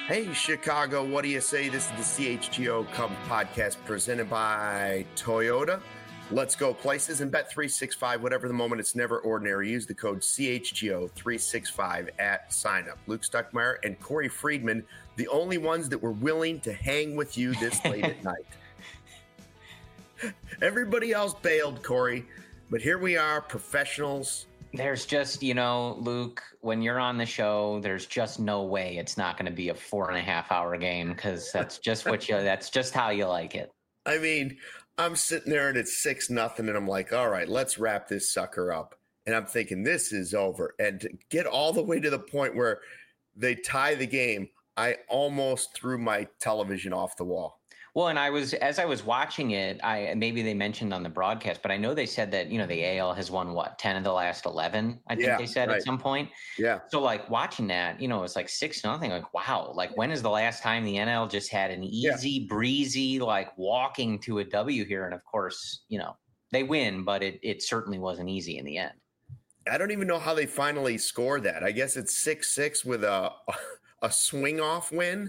Hey, Chicago, what do you say? This is the CHGO Cubs podcast presented by Toyota. Let's go places and bet 365, whatever the moment. It's never ordinary. Use the code CHGO365 at sign up. Luke Stuckmeyer and Corey Friedman, the only ones that were willing to hang with you this late at night. Everybody else bailed, Corey, but here we are, professionals. There's just, Luke, when you're on the show, there's just no way it's not going to be a 4.5 hour game because that's just that's just how you like it. I mean, I'm sitting there and it's 6-0 and I'm like, all right, let's wrap this sucker up. And I'm thinking this is over. And to get all the way to the point where they tie the game, I almost threw my television off the wall. Well, and as I was watching it, maybe they mentioned on the broadcast, but I know they said that, the AL has won 10 of the last 11, I think they said right. At some point. Yeah. So like watching that, it's like 6-0, like, wow, like when is the last time the NL just had an easy breezy, like walking to a W here? And of course, they win, but it certainly wasn't easy in the end. I don't even know how they finally scored that. I guess it's 6-6 with a swing off win.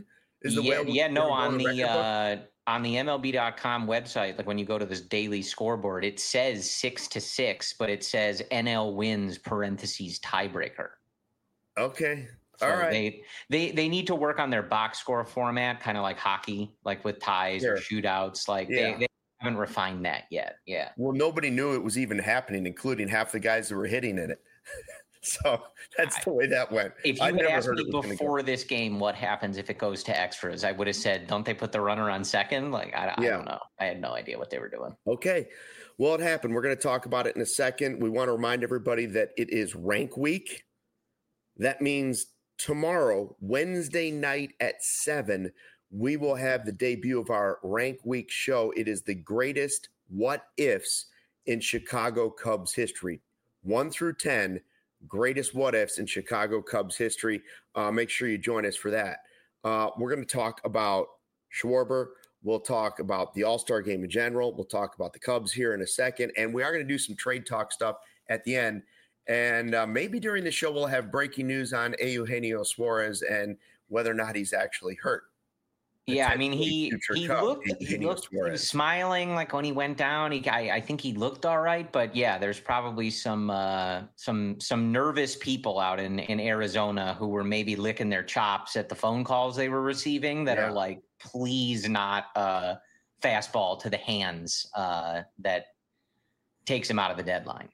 On the MLB.com website, like when you go to this daily scoreboard, it says 6-6, but it says NL wins parentheses tiebreaker. Okay. So all right. They need to work on their box score format, kind of like hockey, like with ties or shootouts. Like they haven't refined that yet. Yeah. Well, nobody knew it was even happening, including half the guys that were hitting in it. So that's the way that went. If you had asked me before this game what happens if it goes to extras, I would have said, don't they put the runner on second? Like, I don't know. I had no idea what they were doing. Okay. Well, it happened. We're going to talk about it in a second. We want to remind everybody that it is rank week. That means tomorrow, Wednesday night at 7, we will have the debut of our rank week show. It is the greatest what ifs in Chicago Cubs history. 1 through 10. Greatest what ifs in Chicago Cubs history. Make sure you join us for that. We're going to talk about Schwarber. We'll talk about the All-Star game in general. We'll talk about the Cubs here in a second. And we are going to do some trade talk stuff at the end. And maybe during the show, we'll have breaking news on Eugenio Suarez and whether or not he's actually hurt. Yeah, I mean, he looked smiling like when he went down. I think he looked all right, but yeah, there's probably some nervous people out in Arizona who were maybe licking their chops at the phone calls they were receiving that are like, please not fastball to the hands that takes him out of the deadline.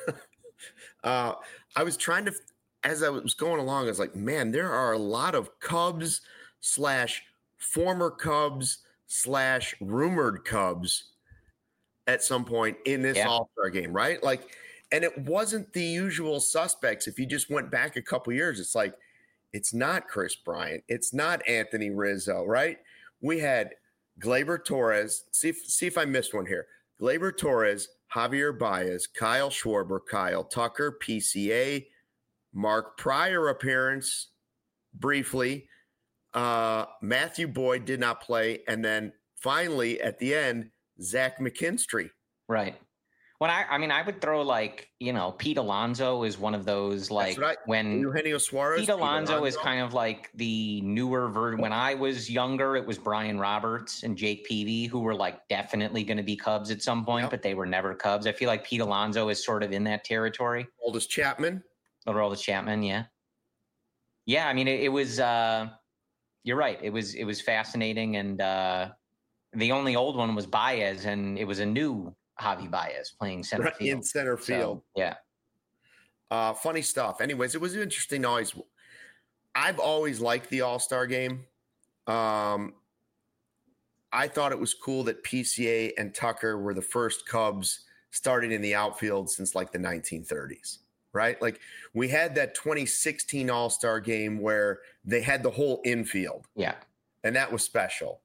I was trying to, as I was going along, I was like, man, there are a lot of Cubs / former Cubs / rumored Cubs at some point in this All-Star game, right? Like, and it wasn't the usual suspects. If you just went back a couple years, it's like, it's not Chris Bryant. It's not Anthony Rizzo, right? We had Gleyber Torres. See if I missed one here. Gleyber Torres, Javier Baez, Kyle Schwarber, Kyle Tucker, PCA, Mark Pryor appearance briefly. Matthew Boyd did not play. And then finally at the end, Zach McKinstry. Right. When I would throw Pete Alonso is one of those when Eugenio Suarez. Pete Alonso is kind of like the newer version. When I was younger, it was Brian Roberts and Jake Peavy who were definitely going to be Cubs at some point, but they were never Cubs. I feel like Pete Alonso is sort of in that territory. Aroldis Chapman. Yeah. Yeah. I mean, it was, you're right. It was fascinating, and the only old one was Baez, and it was a new Javi Baez playing center field. In center field. So, yeah. Funny stuff. Anyways, it was interesting. I've always liked the All-Star game. I thought it was cool that PCA and Tucker were the first Cubs starting in the outfield since the 1930s. Right? Like we had that 2016 All-Star game where they had the whole infield. Yeah. And that was special.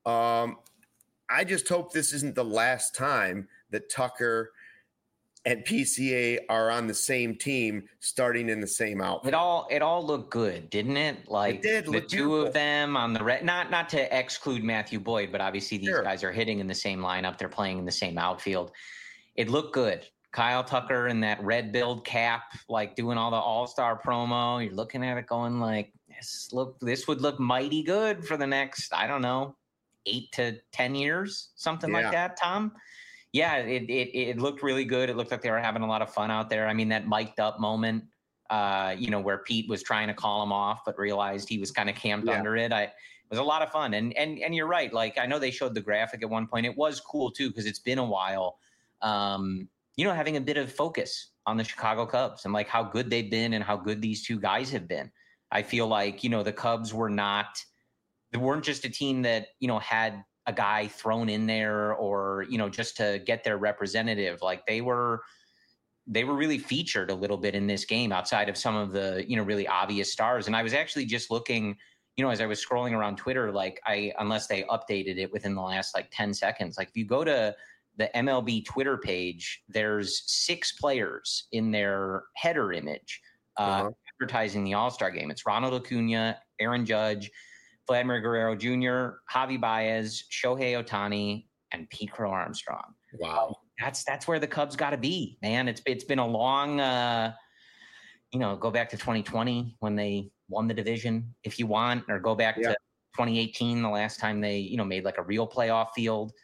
I just hope this isn't the last time that Tucker and PCA are on the same team starting in the same outfit. It all looked good, didn't it? It did. The two of them on the not to exclude Matthew Boyd, but obviously these guys are hitting in the same lineup. They're playing in the same outfield. It looked good. Kyle Tucker in that red billed cap, doing all the all-star promo. You're looking at it going this would look mighty good for the next, I don't know, 8 to 10 years, something like that, Tom. Yeah, it looked really good. It looked like they were having a lot of fun out there. I mean, that mic'd up moment, where Pete was trying to call him off, but realized he was kind of camped under it. It was a lot of fun. And you're right. Like, I know they showed the graphic at one point. It was cool too, because it's been a while. Having a bit of focus on the Chicago Cubs and like how good they've been and how good these two guys have been. I feel like, the Cubs they weren't just a team that, had a guy thrown in there or, just to get their representative. Like they were really featured a little bit in this game outside of some of the, really obvious stars. And I was actually just looking, as I was scrolling around Twitter, like unless they updated it within the last like 10 seconds, like if you go to the MLB Twitter page, there's 6 players in their header image advertising the All-Star game. It's Ronald Acuna, Aaron Judge, Vladimir Guerrero Jr., Javi Baez, Shohei Ohtani, and Pete Crow Armstrong. Wow. That's where the Cubs got to be, man. It's been a long, go back to 2020 when they won the division, if you want, or go back to 2018, the last time they, made like a real playoff field.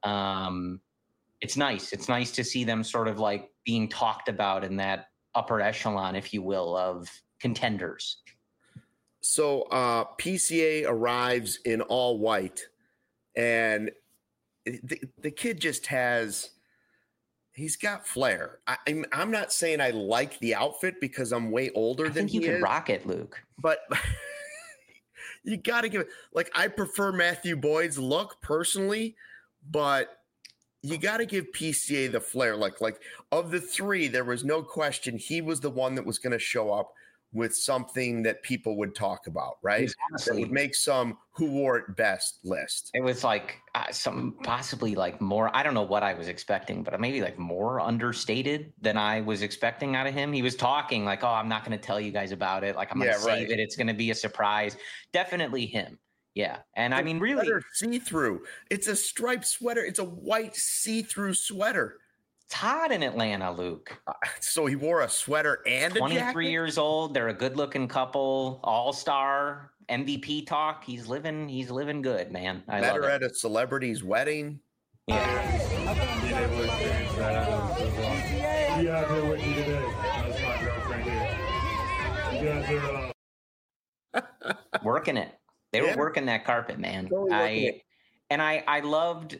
It's nice. It's nice to see them sort of like being talked about in that upper echelon, if you will, of contenders. So PCA arrives in all white, and the kid just he's got flair. I'm not saying I like the outfit because I'm way older than he is. I think you could rock it, Luke. But you got to give it, like, I prefer Matthew Boyd's look personally, but you got to give PCA the flair. Like of the 3, there was no question he was the one that was going to show up with something that people would talk about, right? That would make some who wore it best list. It was like some possibly like more, I don't know what I was expecting, but maybe like more understated than I was expecting out of him. He was talking like, oh, I'm not going to tell you guys about it. Like I'm going to save it. It's going to be a surprise. Definitely him. Yeah. And I mean, really see-through. It's a striped sweater. It's a white see-through sweater. It's hot in Atlanta, Luke. So he wore a sweater and a 23 jacket? years old. They're a good-looking couple. All-star MVP talk. He's living good, man. I Met love her it. at a celebrity's wedding. Yeah. Being able to experience that as well. Be out here with you today. That's my girlfriend here. You guys are working it. They were working that carpet, man. Totally I loved.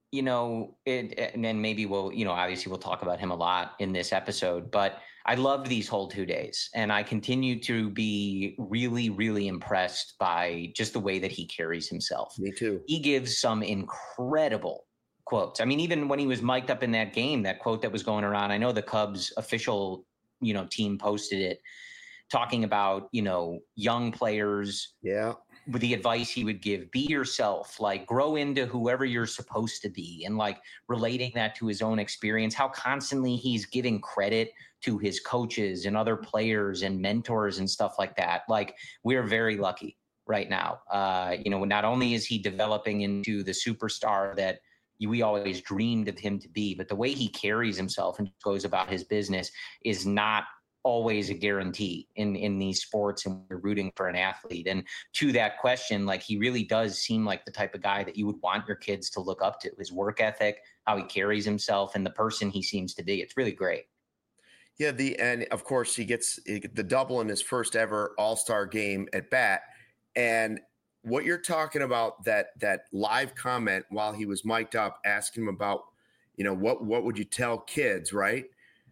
It, and maybe we'll, obviously we'll talk about him a lot in this episode, but I loved these whole 2 days, and I continue to be really, really impressed by just the way that he carries himself. Me too. He gives some incredible quotes. I mean, even when he was mic'd up in that game, that quote that was going around, I know the Cubs official, team posted it, talking about, young players. Yeah. With the advice he would give, be yourself, like grow into whoever you're supposed to be, and like relating that to his own experience, how constantly he's giving credit to his coaches and other players and mentors and stuff like that. Like, we're very lucky right now. Not only is he developing into the superstar that we always dreamed of him to be, but the way he carries himself and goes about his business is not always a guarantee in these sports, and we're rooting for an athlete. And to that question, like, he really does seem like the type of guy that you would want your kids to look up to. His work ethic, how he carries himself, and the person he seems to be. It's really great. Yeah, and of course he gets the double in his first ever All-Star game at bat. And what you're talking about, that live comment while he was mic'd up, asking him about, what would you tell kids, right?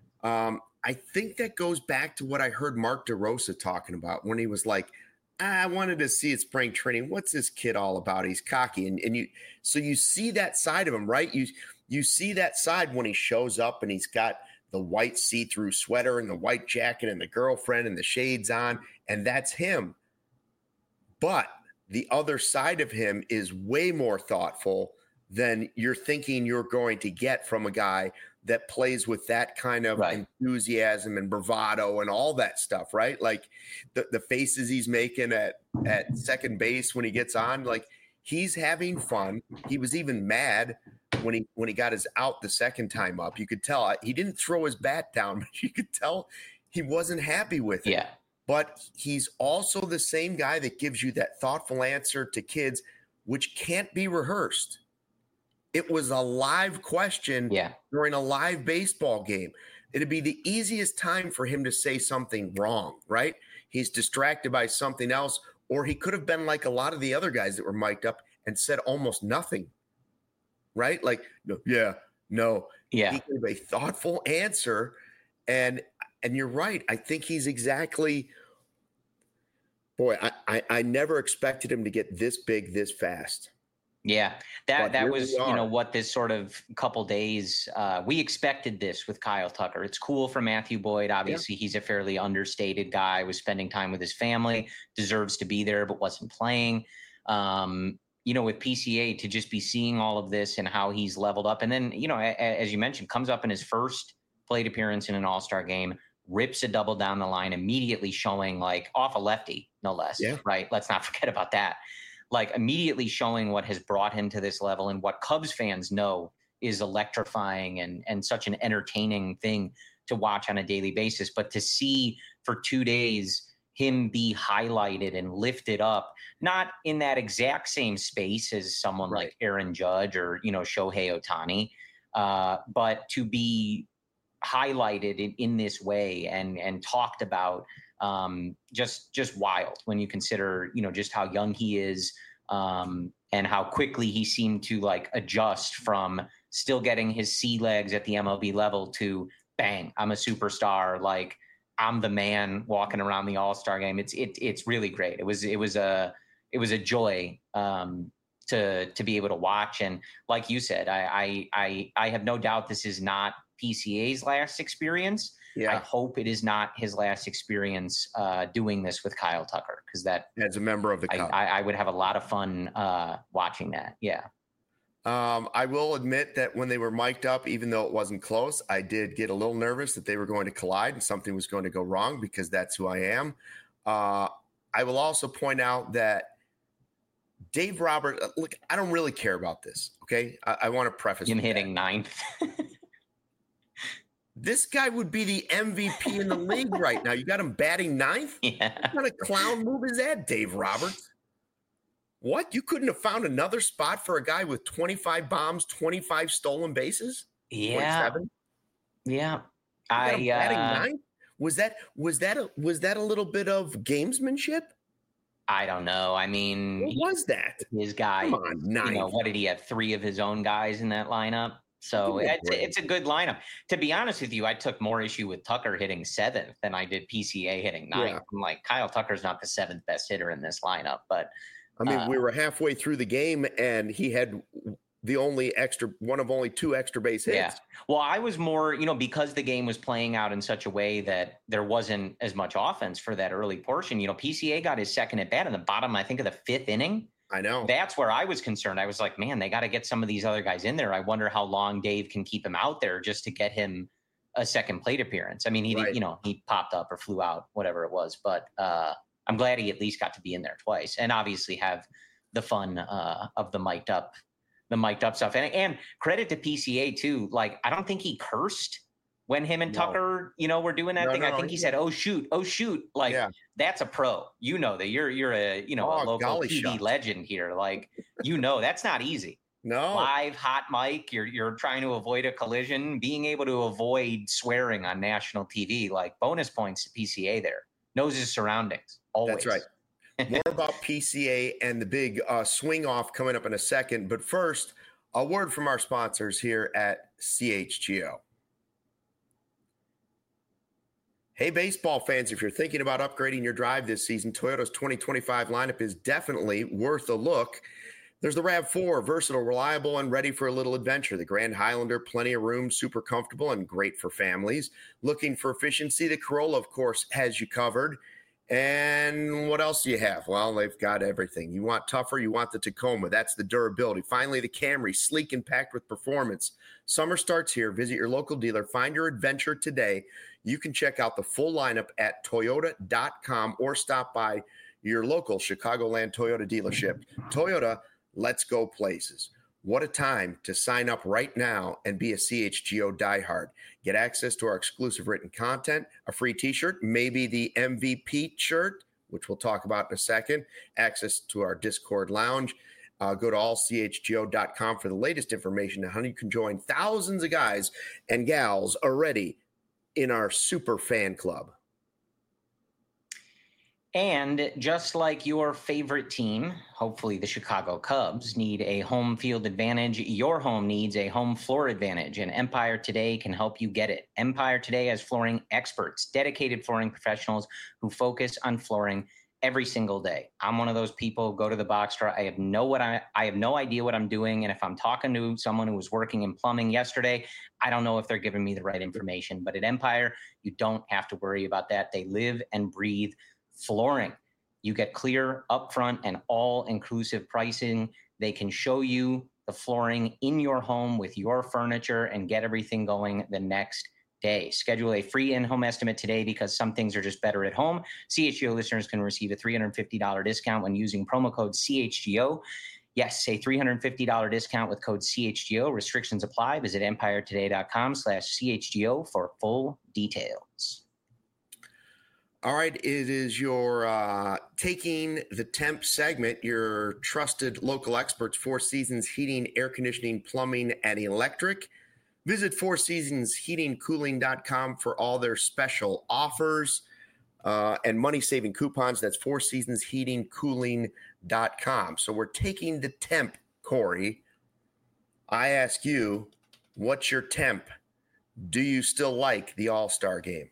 I think that goes back to what I heard Mark DeRosa talking about when he was like, I wanted to see it spring training. What's this kid all about? He's cocky. And you see that side of him, right? You see that side when he shows up and he's got the white see-through sweater and the white jacket and the girlfriend and the shades on, and that's him. But the other side of him is way more thoughtful than you're thinking you're going to get from a guy that plays with that kind of enthusiasm and bravado and all that stuff, right? Like the faces he's making at second base when he gets on, like, he's having fun. He was even mad when he got his out the second time up. You could tell he didn't throw his bat down, but you could tell he wasn't happy with it. Yeah. but he's also the same guy that gives you that thoughtful answer to kids, which can't be rehearsed. It was a live question during a live baseball game. It'd be the easiest time for him to say something wrong, right? He's distracted by something else, or he could have been like a lot of the other guys that were mic'd up and said almost nothing, right? Like, no. He gave a thoughtful answer, and you're right. I think he's exactly – boy, I never expected him to get this big this fast. Yeah, that was, what this sort of couple days, we expected this with Kyle Tucker. It's cool for Matthew Boyd. Obviously, he's a fairly understated guy, was spending time with his family, deserves to be there, but wasn't playing. With PCA, to just be seeing all of this and how he's leveled up. And then, as you mentioned, comes up in his first plate appearance in an All-Star game, rips a double down the line, immediately showing like off a lefty, no less, right? Let's not forget about that. Like immediately showing what has brought him to this level and what Cubs fans know is electrifying and such an entertaining thing to watch on a daily basis. But to see for 2 days him be highlighted and lifted up, not in that exact same space as someone like Aaron Judge or, Shohei Ohtani, but to be highlighted in this way and talked about, just wild when you consider, just how young he is, and how quickly he seemed to like adjust from still getting his sea legs at the MLB level to bang, I'm a superstar. Like I'm the man walking around the All-Star game. It's really great. It was a joy, to be able to watch. And like you said, I have no doubt this is not PCA's last experience. I hope it is not his last experience doing this with Kyle Tucker, because that as a member of the Cubs, I would have a lot of fun watching that. Yeah. I will admit that when they were mic'd up, even though it wasn't close, I did get a little nervous that they were going to collide and something was going to go wrong, because that's who I am. I will also point out that Dave Roberts, look, I don't really care about this. Okay. I want to preface him hitting ninth. This guy would be the MVP in the league right now. You got him batting ninth? Yeah. What kind of clown move is that, Dave Roberts? What? You couldn't have found another spot for a guy with 25 bombs, 25 stolen bases? Yeah. 27? Yeah. Batting ninth? Was that a little bit of gamesmanship? I don't know. I mean, what was that? His guy, come on, ninth. What did he have? 3 of his own guys in that lineup? So it's a good lineup. To be honest with you, I took more issue with Tucker hitting 7th than I did PCA hitting 9th. Yeah. I'm like, Kyle Tucker's not the 7th best hitter in this lineup. But I mean, we were halfway through the game and he had one of only 2 extra base hits. Yeah. Well, I was more, because the game was playing out in such a way that there wasn't as much offense for that early portion. PCA got his second at bat in the bottom, I think, of the 5th inning. I know. That's where I was concerned. I was like, man, they got to get some of these other guys in there. I wonder how long Dave can keep him out there just to get him a second plate appearance. I mean, he popped up or flew out, whatever it was. But I'm glad he at least got to be in there twice and obviously have the fun of the mic'd up stuff. And credit to PCA too. Like, I don't think he cursed when him and Tucker, were doing that thing. I think he said, oh shoot. Like, that's a pro. That you're a local TV legend here. Like, that's not easy. No. Live hot mic. You're trying to avoid a collision, being able to avoid swearing on national TV, like bonus points to PCA there. Knows his surroundings. Always. That's right. More about PCA and the big swing off coming up in a second. But first, a word from our sponsors here at CHGO. Hey, baseball fans, if you're thinking about upgrading your drive this season, Toyota's 2025 lineup is definitely worth a look. There's the RAV4, versatile, reliable, and ready for a little adventure. The Grand Highlander, plenty of room, super comfortable, and great for families. Looking for efficiency, the Corolla, of course, has you covered. And what else do you have? Well, they've got everything. You want tougher, you want the Tacoma. That's the durability. Finally, the Camry, sleek and packed with performance. Summer starts here. Visit your local dealer. Find your adventure today. You can check out the full lineup at Toyota.com or stop by your local Chicagoland Toyota dealership. Toyota, let's go places. What a time to sign up right now and be a CHGO diehard. Get access to our exclusive written content, a free t-shirt, maybe the MVP shirt, which we'll talk about in a second, access to our Discord lounge. Go to allchgo.com for the latest information on how you can join thousands of guys and gals already in our super fan club. And just like your favorite team, hopefully the Chicago Cubs, need a home field advantage, your home needs a home floor advantage, and Empire Today can help you get it. Empire Today has flooring experts, dedicated flooring professionals who focus on flooring every single day. I'm one of those people, go to the box store. I have no idea what I'm doing. And if I'm talking to someone who was working in plumbing yesterday, I don't know if they're giving me the right information. But at Empire, you don't have to worry about that. They live and breathe flooring. You get clear, upfront, and all-inclusive pricing. They can show you the flooring in your home with your furniture and get everything going the next day. Schedule a free in-home estimate today because some things are just better at home. CHGO listeners can receive a $350 discount when using promo code CHGO. Yes, a $350 discount with code CHGO. Restrictions apply. Visit empiretoday.com/CHGO for full details. All right, it is your Taking the Temp segment, your trusted local experts, Four Seasons Heating, Air Conditioning, Plumbing, and Electric. Visit fourseasonsheatingcooling.com for all their special offers and money-saving coupons. That's fourseasonsheatingcooling.com. So we're taking the temp, Corey. I ask you, what's your temp? Do you still like the All-Star game?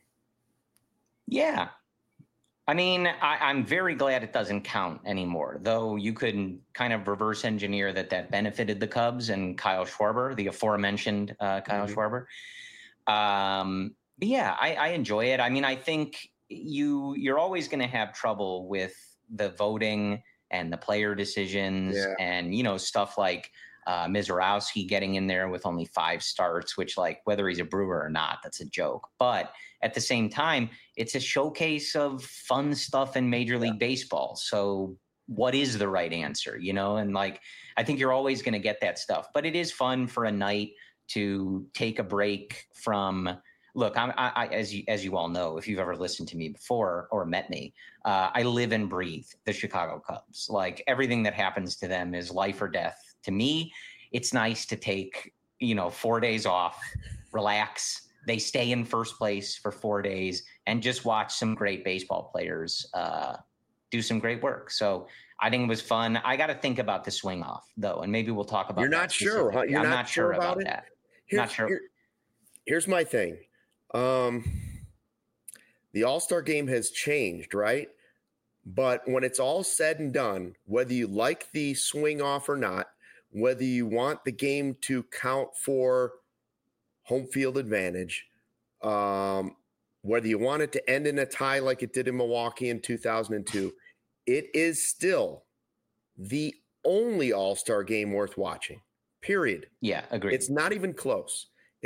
Yeah. I mean, I'm very glad it doesn't count anymore, though you could kind of reverse engineer that benefited the Cubs and Kyle Schwarber, the aforementioned Kyle Schwarber. But yeah, I enjoy it. I mean, I think you're always going to have trouble with the voting and the player decisions and, stuff like Mizorowski getting in there with only 5 starts, which, like, whether he's a Brewer or not, that's a joke. But at the same time, it's a showcase of fun stuff in Major League Baseball. So what is the right answer, And, like, I think you're always going to get that stuff. But it is fun for a night to take a break from – look, I as you all know, if you've ever listened to me before or met me, I live and breathe the Chicago Cubs. Like, everything that happens to them is life or death. To me, it's nice to take, 4 days off, relax. They stay in first place for 4 days and just watch some great baseball players do some great work. So I think it was fun. I got to think about the swing off, though, and maybe we'll talk about You're not sure, huh? I'm not sure about that. Not sure. Here's my thing. The All-Star game has changed, right? But when it's all said and done, whether you like the swing off or not, whether you want the game to count for home field advantage, whether you want it to end in a tie like it did in Milwaukee in 2002, it is still the only All-Star game worth watching, period. Yeah, agreed. It's not even close.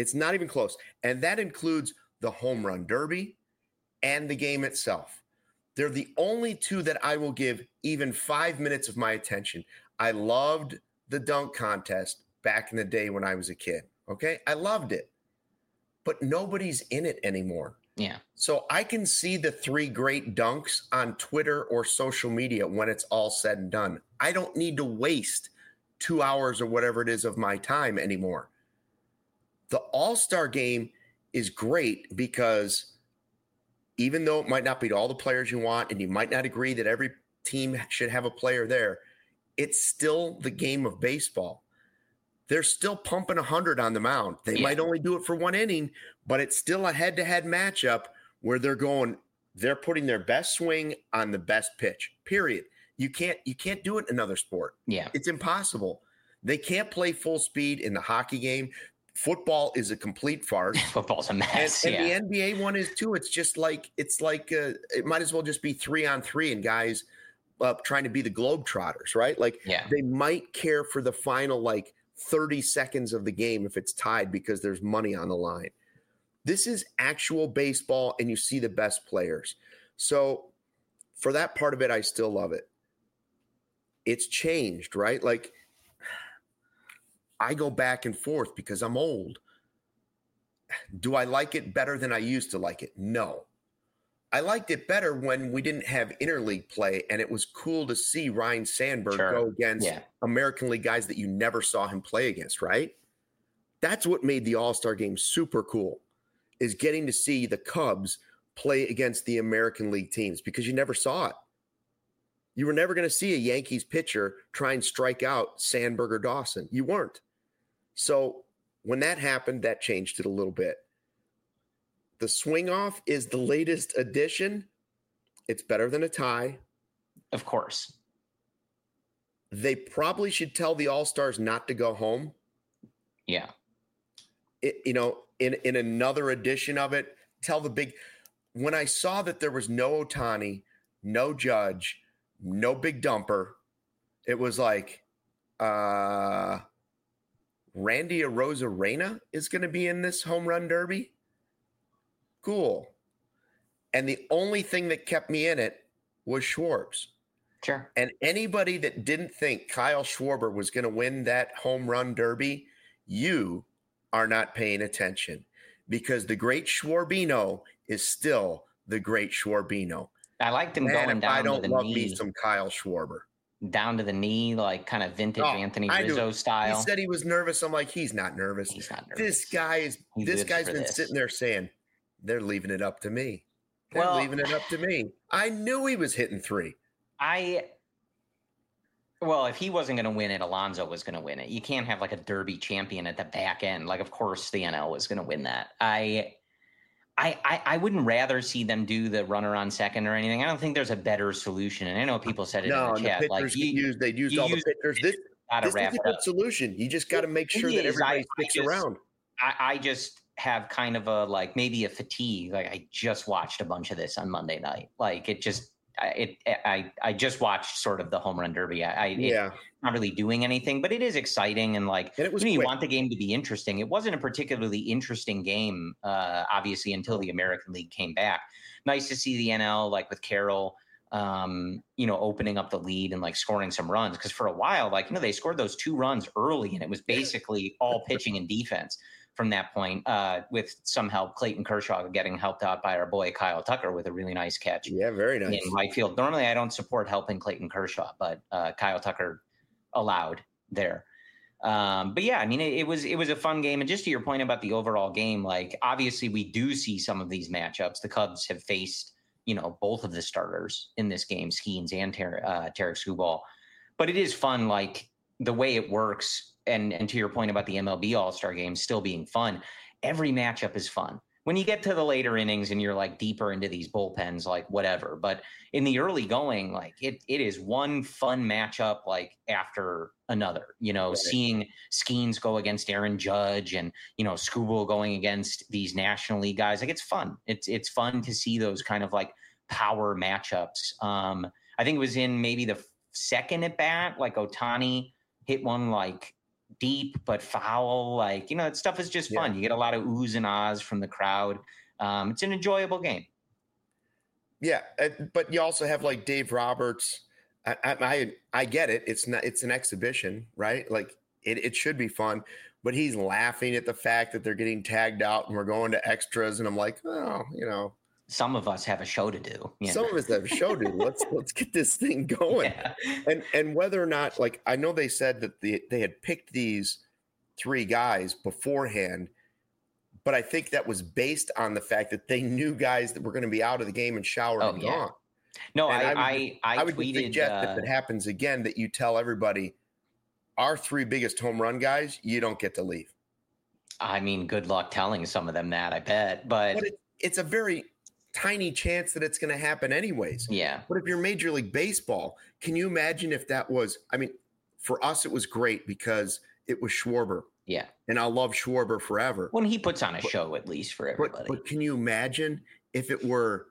And that includes the home run derby and the game itself. They're the only two that I will give even 5 minutes of my attention. I loved the dunk contest back in the day when I was a kid. Okay. I loved it, but nobody's in it anymore. Yeah. So I can see the 3 great dunks on Twitter or social media when it's all said and done. I don't need to waste 2 hours or whatever it is of my time anymore. The All-Star game is great because even though it might not be all the players you want, and you might not agree that every team should have a player there, it's still the game of baseball. They're still pumping 100 on the mound. They might only do it for 1 inning, but it's still a head-to-head matchup where they're putting their best swing on the best pitch, period. You can't do it in another sport. Yeah. It's impossible. They can't play full speed in the hockey game. Football is a complete farce. Football's a mess. And the NBA one is too. It's just like it might as well just be 3-on-3 and guys trying to be the Globetrotters, right? Like they might care for the final 30 seconds of the game if it's tied because there's money on the line. This is actual baseball, and you see the best players. So for that part of it, I still love it. It's changed, right? Like I go back and forth because I'm old. Do I like it better than I used to like it? No. I liked it better when we didn't have interleague play, and it was cool to see Ryan Sandberg go against American League guys that you never saw him play against, right? That's what made the All-Star game super cool, is getting to see the Cubs play against the American League teams, because you never saw it. You were never going to see a Yankees pitcher try and strike out Sandberg or Dawson. You weren't. So when that happened, that changed it a little bit. The swing off is the latest addition. It's better than a tie. Of course. They probably should tell the All-Stars not to go home. Yeah. In another edition of it, when I saw that there was no Ohtani, no Judge, no Big Dumper, it was like, Randy Arozarena is going to be in this home run derby. Cool. And the only thing that kept me in it was Schwartz. Sure. And anybody that didn't think Kyle Schwarber was going to win that home run derby, you are not paying attention, because the great Schwarbino is still the great Schwarbino. I liked him going down to the knee. I don't love me some Kyle Schwarber. Down to the knee, like kind of vintage Anthony Rizzo style. He said he was nervous. I'm like, he's not nervous. He's not nervous. This guy's been sitting there saying, they're leaving it up to me. Leaving it up to me. I knew he was hitting three. If he wasn't going to win it, Alonso was going to win it. You can't have like a derby champion at the back end. Like, of course, the NL was going to win that. I wouldn't rather see them do the runner on second or anything. I don't think there's a better solution. And I know people said it in the chat. The pitchers they used all the pitchers. This is a good solution. You just got to make sure that everybody sticks around. I just have kind of maybe a fatigue. Like, I just watched a bunch of this on Monday night. Like, I just watched sort of the home run derby. It's not really doing anything, but it is exciting. And you want the game to be interesting. It wasn't a particularly interesting game, obviously, until the American League came back. Nice to see the NL, with Carroll, opening up the lead and scoring some runs. Because for a while, they scored those 2 runs early, and it was basically all pitching and defense from that point, with some help. Clayton Kershaw getting helped out by our boy Kyle Tucker with a really nice catch. Yeah, very nice. In right field. Normally, I don't support helping Clayton Kershaw, but Kyle Tucker allowed there. But yeah, I mean, it was a fun game. And just to your point about the overall game, obviously we do see some of these matchups. The Cubs have faced, both of the starters in this game, Skeens and Tarek Skubal. But it is fun, the way it works. And to your point about the MLB All-Star Game still being fun, every matchup is fun. When you get to the later innings and you're deeper into these bullpens, whatever. But in the early going, it is one fun matchup after another. Right. Seeing Skeens go against Aaron Judge and Skubal going against these National League guys, it's fun. It's fun to see those kind of power matchups. I think it was in maybe the second at bat, Ohtani hit one deep but foul, that stuff is just fun. You get a lot of oohs and ahs from the crowd. It's an enjoyable game. Yeah, but you also have Dave Roberts. I get it. It's an exhibition, right? It should be fun, but he's laughing at the fact that they're getting tagged out and we're going to extras, and I'm like, some of us have a show to do. Some of us have a show to do. Let's get this thing going. Yeah. And whether or not, I know they said that they had picked these 3 guys beforehand, but I think that was based on the fact that they knew guys that were going to be out of the game and showered and gone. No, I would tweeted, suggest if it happens again that you tell everybody, our 3 biggest home run guys, you don't get to leave. I mean, good luck telling some of them that, I bet. But it's a very tiny chance that it's going to happen anyways. Yeah. But if you're Major League Baseball, can you imagine if that was, for us, it was great because it was Schwarber. Yeah. And I'll love Schwarber forever. When he puts on a show, at least for everybody. But can you imagine if it were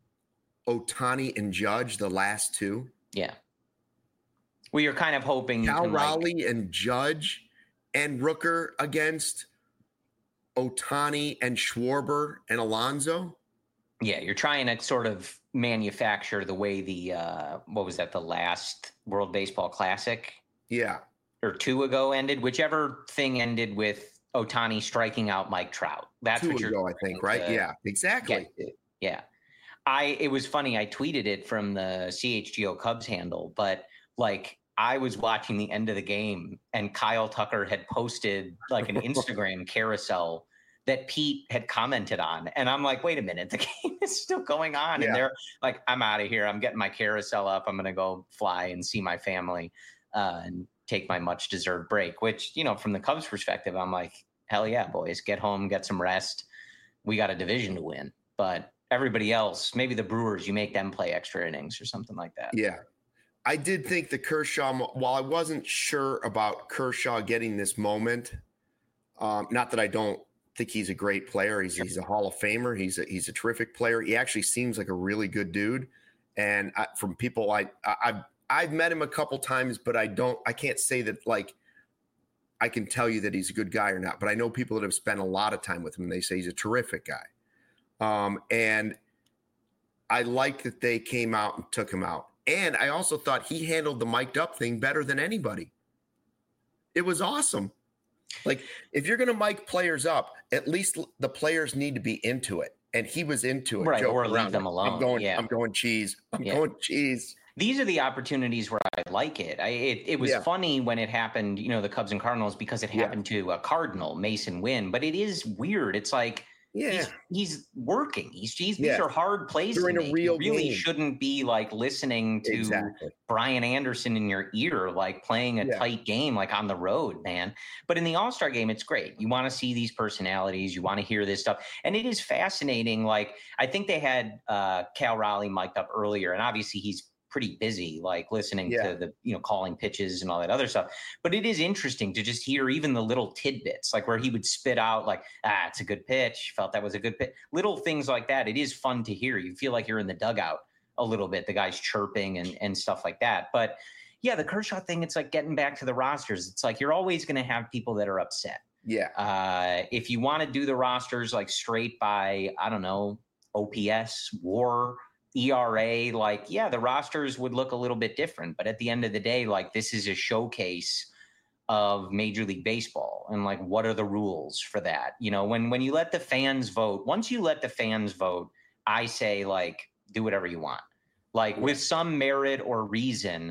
Ohtani and Judge, the last 2? Yeah. Well, you're kind of hoping Cal Raleigh and Judge and Rooker against Ohtani and Schwarber and Alonso. Yeah, you're trying to sort of manufacture the way the the last World Baseball Classic? Yeah. or 2 ago ended, whichever thing ended with Ohtani striking out Mike Trout. That's 2 what you're ago, I think, right? Yeah, exactly. Yeah. It was funny. I tweeted it from the CHGO Cubs handle, but like I was watching the end of the game and Kyle Tucker had posted like an Instagram carousel that Pete had commented on. And I'm like, wait a minute, the game is still going on. Yeah. And they're like, I'm out of here. I'm getting my carousel up. I'm going to go fly and see my family and take my much deserved break, which, you know, from the Cubs perspective, I'm like, hell yeah, boys, get home, get some rest. We got a division to win. But everybody else, maybe the Brewers, you make them play extra innings or something like that. Yeah. I did think the Kershaw, while I wasn't sure about Kershaw getting this moment, not that I don't think he's a great player. He's a Hall of Famer. He's a terrific player. He actually seems like a really good dude. And from people I've met him a couple times, but I can't say that like I can tell you that he's a good guy or not. But I know people that have spent a lot of time with him and they say he's a terrific guy. And I liked that they came out and took him out. And I also thought he handled the mic'd up thing better than anybody. It was awesome. Like, if you're going to mic players up, at least the players need to be into it. And he was into it. Right, or leave them alone. I'm going cheese. Going cheese. These are the opportunities where I like it. It was funny when it happened, you know, the Cubs and Cardinals, because it happened to a Cardinal, Mason Wynn. But it is weird. It's like, he's working. These are hard plays. They're in a real you really game. Shouldn't be like listening to Brian Anderson in your ear, like playing a tight game, like on the road, man. But in the All-Star game, it's great. You want to see these personalities. You want to hear this stuff. And it is fascinating. Like, I think they had Cal Raleigh mic'd up earlier, and obviously he's pretty busy, like listening to the, you know, calling pitches and all that other stuff. But it is interesting to just hear even the little tidbits, like where he would spit out like, it's a good pitch. Felt that was a good pitch. Little things like that. It is fun to hear. You feel like you're in the dugout a little bit. The guy's chirping and stuff like that. But yeah, the Kershaw thing, it's like getting back to the rosters. It's like, you're always going to have people that are upset. Yeah. If you want to do the rosters like straight by, I don't know, OPS, WAR, ERA, like, the rosters would look a little bit different. But at the end of the day, like, this is a showcase of Major League Baseball. And like, what are the rules for that? You know, when you let the fans vote, once you let the fans vote, I say, like, do whatever you want, like with some merit or reason.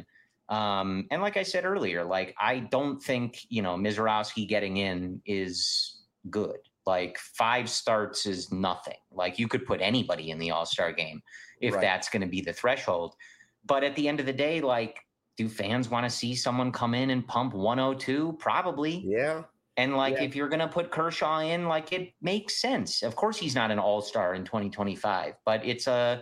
And like I said earlier, like, I don't think, you know, Mizorowski getting in is good. Like, 5 starts is nothing. Like, you could put anybody in the All-Star game if that's going to be the threshold. But at the end of the day, like, do fans want to see someone come in and pump 102? Probably. Yeah. And like, if you're going to put Kershaw in, like, it makes sense. Of course, he's not an all-star in 2025, but it's a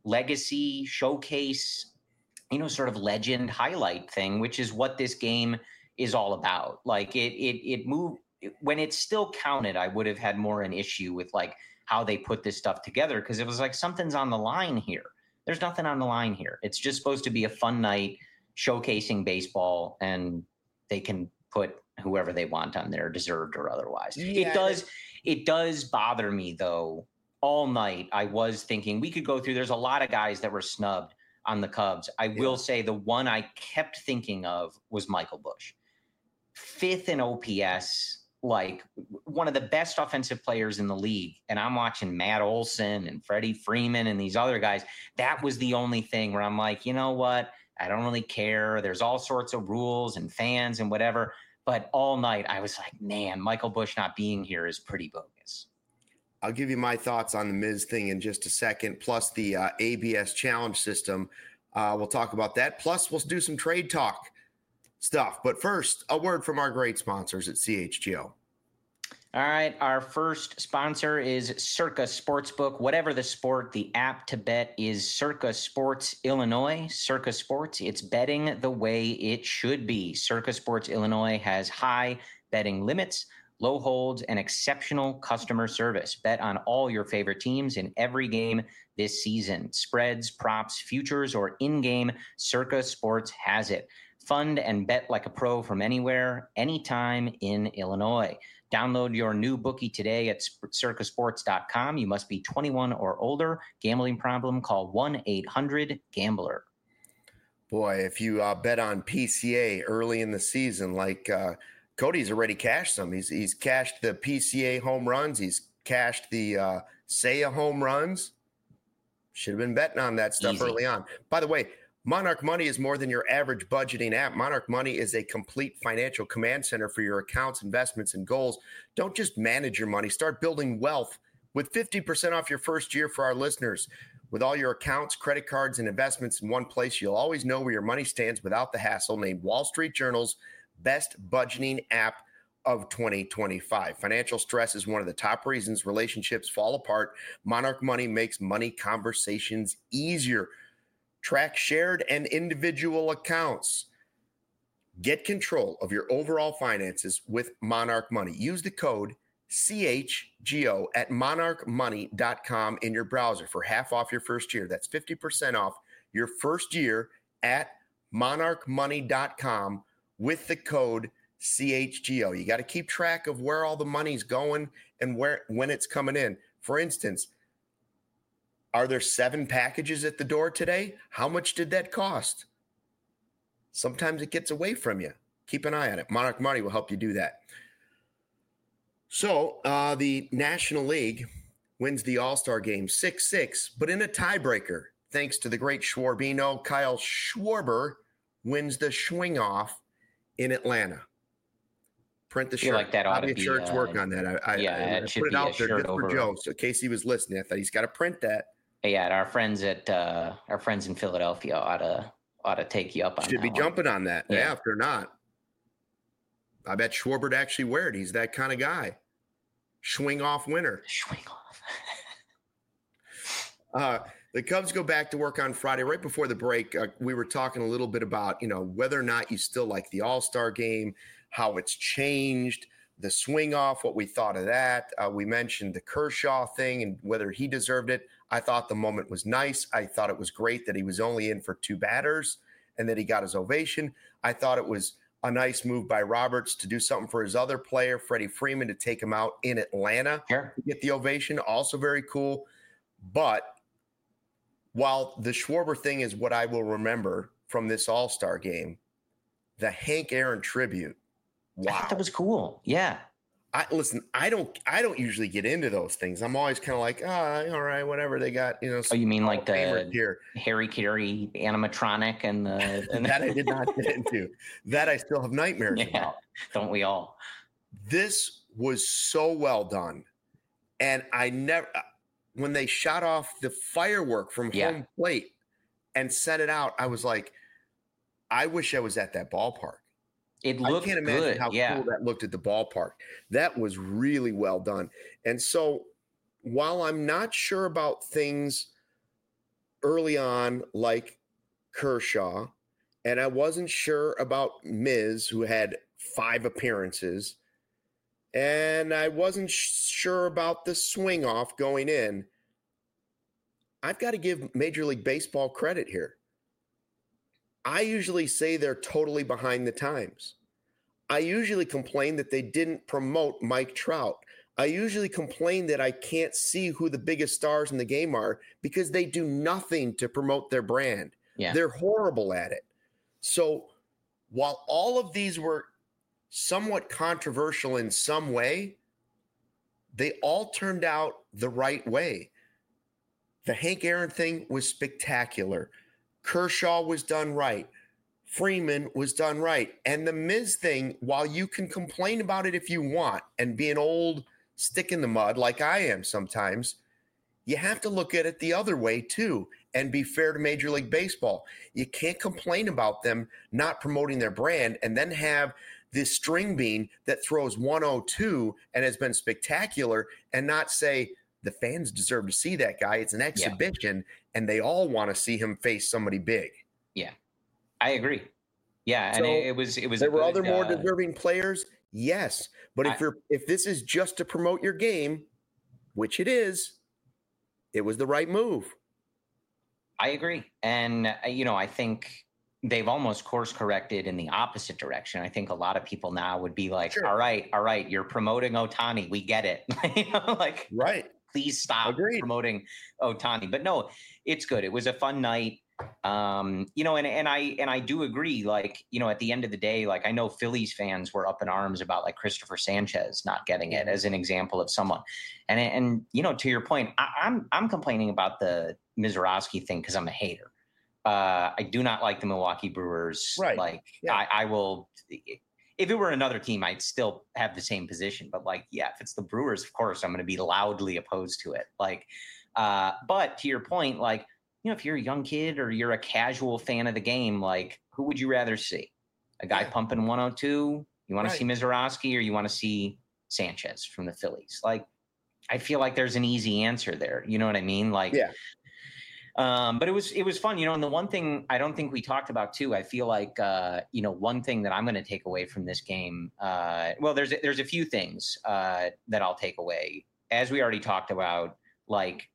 legacy showcase, you know, sort of legend highlight thing, which is what this game is all about. Like, it moved when it still counted. I would have had more an issue with like how they put this stuff together, because it was like, something's on the line here. There's nothing on the line here. It's just supposed to be a fun night showcasing baseball, and they can put whoever they want on there, deserved or otherwise. It does bother me though. All night I was thinking we could go through, there's a lot of guys that were snubbed on the Cubs. I will say the one I kept thinking of was Michael Busch. 5th in OPS, like one of the best offensive players in the league. And I'm watching Matt Olson and Freddie Freeman and these other guys. That was the only thing where I'm like, you know what? I don't really care. There's all sorts of rules and fans and whatever. But all night I was like, man, Michael Busch not being here is pretty bogus. I'll give you my thoughts on the Miz thing in just a second, plus the ABS challenge system. We'll talk about that. Plus, we'll do some trade talk stuff. But first, a word from our great sponsors at CHGO. All right. Our first sponsor is Circa Sportsbook. Whatever the sport, the app to bet is Circa Sports Illinois. Circa Sports, it's betting the way it should be. Circa Sports Illinois has high betting limits, low holds, and exceptional customer service. Bet on all your favorite teams in every game this season. Spreads, props, futures, or in-game, Circa Sports has it. Fund and bet like a pro from anywhere, anytime in Illinois. Download your new bookie today at circasports.com. You must be 21 or older. Gambling problem? Call 1-800-GAMBLER. Boy, if you bet on PCA early in the season, like Cody's already cashed some. He's cashed the PCA home runs. He's cashed the Seiya home runs. Should have been betting on that stuff early on. By the way, Monarch Money is more than your average budgeting app. Monarch Money is a complete financial command center for your accounts, investments, and goals. Don't just manage your money. Start building wealth with 50% off your first year for our listeners. With all your accounts, credit cards, and investments in one place, you'll always know where your money stands without the hassle. Named Wall Street Journal's best budgeting app of 2025. Financial stress is one of the top reasons relationships fall apart. Monarch Money makes money conversations easier. Track shared and individual accounts. Get control of your overall finances with Monarch Money. Use the code CHGO at monarchmoney.com in your browser for half off your first year. That's 50% off your first year at monarchmoney.com with the code CHGO. You got to keep track of where all the money's going and when it's coming in. For instance, are there 7 packages at the door today? How much did that cost? Sometimes it gets away from you. Keep an eye on it. Monarch Money will help you do that. So the National League wins the All-Star game 6-6, but in a tiebreaker, thanks to the great Schwarbino. Kyle Schwarber wins the swing-off in Atlanta. Print the shirt. Like that ought to be shirts work on that. I put it out there just for Joe, so in case he was listening. I thought he's got to print that. Yeah, our friends in Philadelphia ought to take you up on that. Should be jumping on that. Yeah, if they're not. I bet Schwarber actually wear it. He's that kind of guy. Swing off winner. Swing off. The Cubs go back to work on Friday. Right before the break, we were talking a little bit about, whether or not you still like the All-Star game, how it's changed, the swing off, what we thought of that. We mentioned the Kershaw thing and whether he deserved it. I thought the moment was nice. I thought it was great that he was only in for 2 batters and that he got his ovation. I thought it was a nice move by Roberts to do something for his other player, Freddie Freeman, to take him out in Atlanta to get the ovation. Also very cool. But while the Schwarber thing is what I will remember from this All-Star game, the Hank Aaron tribute. Wow. I thought that was cool. Yeah. I don't usually get into those things. I'm always kind of like, all right, whatever they got, Oh, you mean like the Harry Carey animatronic and that I did not get into. That I still have nightmares about. Don't we all? This was so well done. And when they shot off the firework from home plate and set it out, I was like, I wish I was at that ballpark. It looked I can't imagine how cool that looked at the ballpark. That was really well done. And so while I'm not sure about things early on like Kershaw, and I wasn't sure about Miz, who had 5 appearances, and I wasn't sure about the swing off going in, I've got to give Major League Baseball credit here. I usually say they're totally behind the times. I usually complain that they didn't promote Mike Trout. I usually complain that I can't see who the biggest stars in the game are because they do nothing to promote their brand. Yeah. They're horrible at it. So while all of these were somewhat controversial in some way, they all turned out the right way. The Hank Aaron thing was spectacular. Kershaw was done right. Freeman was done right. And the Miz thing, while you can complain about it if you want and be an old stick in the mud like I am sometimes, you have to look at it the other way too and be fair to Major League Baseball. You can't complain about them not promoting their brand and then have this string bean that throws 102 and has been spectacular and not say, the fans deserve to see that guy. It's an exhibition, and they all want to see him face somebody big. Yeah, I agree. Yeah, so and it was. There were other more deserving players, yes. But if this is just to promote your game, which it is, it was the right move. I agree, and I think they've almost course corrected in the opposite direction. I think a lot of people now would be like, sure. all right, you're promoting Ohtani. We get it. Right. Please stop promoting Ohtani. But no, it's good. It was a fun night. And I do agree, like, at the end of the day, like, I know Phillies fans were up in arms about like Christopher Sanchez not getting it as an example of someone. And to your point, I'm complaining about the Mizorowski thing because I'm a hater. I do not like the Milwaukee Brewers. Right. Like, yeah. I will, if it were another team, I'd still have the same position. But like, yeah, if it's the Brewers, of course, I'm going to be loudly opposed to it. Like, but to your point, like, if you're a young kid or you're a casual fan of the game, like, who would you rather see? A guy pumping 102? You want to see Mizorowski, or you want to see Sanchez from the Phillies? Like, I feel like there's an easy answer there. You know what I mean? Like, but it was fun, and the one thing I don't think we talked about too, I feel like, one thing that I'm going to take away from this game, well, there's a few things that I'll take away. As we already talked about, like,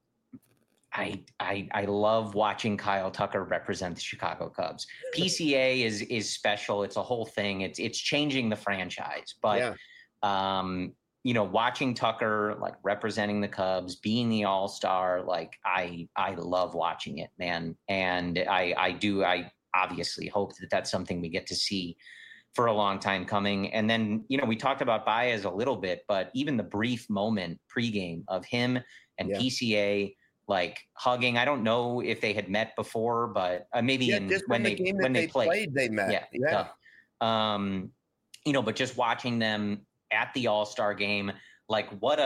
I love watching Kyle Tucker represent the Chicago Cubs. PCA is special. It's a whole thing. It's changing the franchise. But watching Tucker like representing the Cubs, being the All-Star, like I love watching it, man. And I obviously hope that that's something we get to see for a long time coming. And then, we talked about Baez a little bit, but even the brief moment pregame of him and PCA like hugging. I don't know if they had met before, but maybe when they played, they met. Yeah. But just watching them at the All-Star game, like what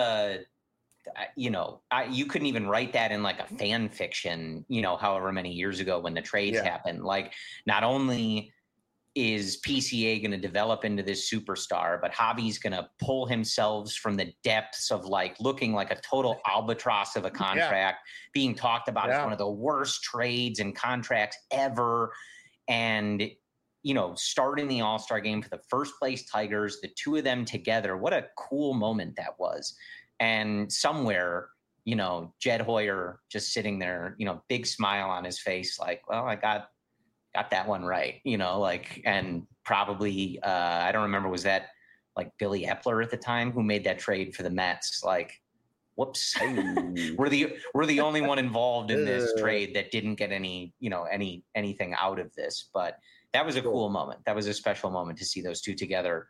you couldn't even write that in like a fan fiction, however many years ago when the trades happened. Like, not only is PCA going to develop into this superstar, but Javi's going to pull himself from the depths of like looking like a total albatross of a contract, being talked about as one of the worst trades and contracts ever. And, starting the All-Star game for the first place Tigers, the two of them together, what a cool moment that was. And somewhere, Jed Hoyer just sitting there, big smile on his face, like, well, I got that one right, and probably, I don't remember, was that like Billy Epler at the time who made that trade for the Mets? Like, whoops, we're the only one involved in this trade that didn't get any, anything out of this. But that was a cool moment. That was a special moment to see those two together.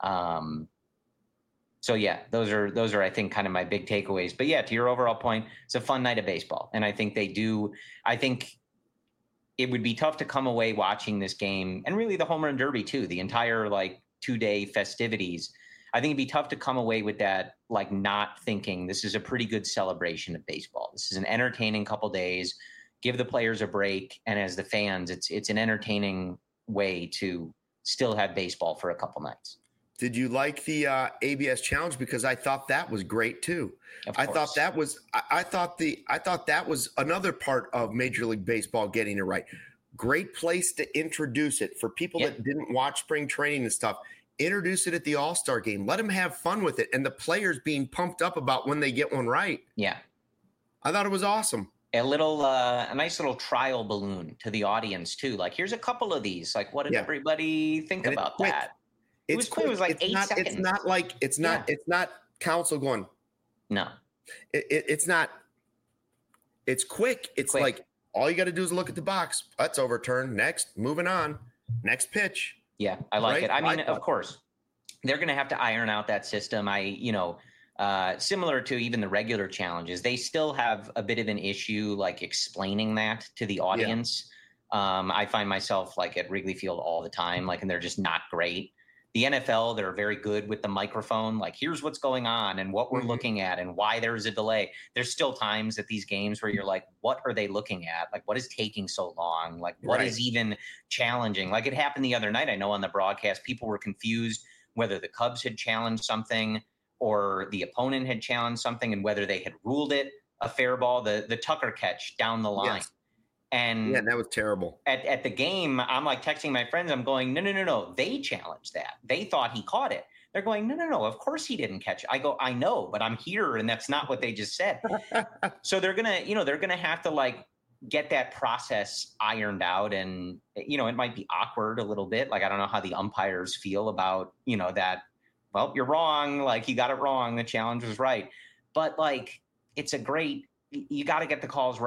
So yeah, those are, I think, kind of my big takeaways. But yeah, to your overall point, it's a fun night of baseball. And I think I think it would be tough to come away watching this game, and really the home run derby too, the entire like 2-day festivities. I think it'd be tough to come away with that, like, not thinking this is a pretty good celebration of baseball. This is an entertaining couple days. Give the players a break. And as the fans, it's an entertaining way to still have baseball for a couple nights. Did you like the ABS challenge? Because I thought that was great too. I thought that was another part of Major League Baseball getting it right. Great place to introduce it for people that didn't watch spring training and stuff. Introduce it at the All-Star game. Let them have fun with it, and the players being pumped up about when they get one right. Yeah, I thought it was awesome. A nice little trial balloon to the audience too. Like, here's a couple of these. Like, what did everybody think about that? It was quick. It was like 8 seconds. It's not council going. No, it's not. It's quick. It's quick. Like, all you got to do is look at the box. That's overturned. Next, moving on. Next pitch. Yeah, I like it. I mean, of course, they're going to have to iron out that system. Similar to even the regular challenges, they still have a bit of an issue, like, explaining that to the audience. I find myself like at Wrigley Field all the time, like, and they're just not great. The NFL, they're very good with the microphone. Like, here's what's going on and what we're looking at and why there's a delay. There's still times at these games where you're like, what are they looking at? Like, what is taking so long? Like, what is even challenging? Like, it happened the other night. I know on the broadcast, people were confused whether the Cubs had challenged something or the opponent had challenged something, and whether they had ruled it a fair ball, the Tucker catch down the line. Yes. And that was terrible. At the game, I'm like texting my friends. I'm going, no. They challenged that. They thought he caught it. They're going, no. Of course he didn't catch it. I go, I know, but I'm here, and that's not what they just said. So they're gonna have to like get that process ironed out, and it might be awkward a little bit. Like, I don't know how the umpires feel about that. Well, you're wrong. Like, you got it wrong. The challenge was right, but like, you got to get the calls right.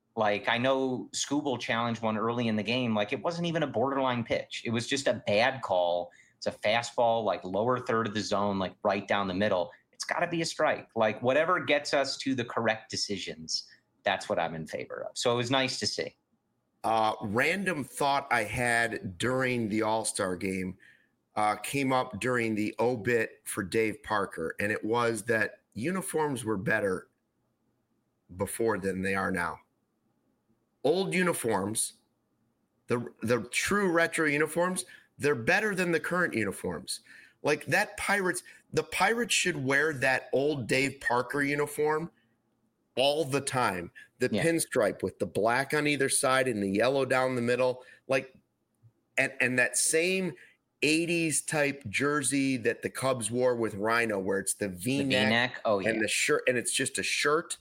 Like, I know Skubal challenged one early in the game. Like, it wasn't even a borderline pitch. It was just a bad call. It's a fastball, like lower third of the zone, like right down the middle. It's got to be a strike. Like, whatever gets us to the correct decisions, that's what I'm in favor of. So it was nice to see. Random thought I had during the All-Star game came up during the obit for Dave Parker, and it was that uniforms were better before than they are now. Old uniforms, the true retro uniforms, they're better than the current uniforms. Like that the Pirates should wear that old Dave Parker uniform all the time. The pinstripe with the black on either side and the yellow down the middle. Like, and that same 80s type jersey that the Cubs wore with Rhino, where it's the V-neck, and the shirt, and it's just a shirt.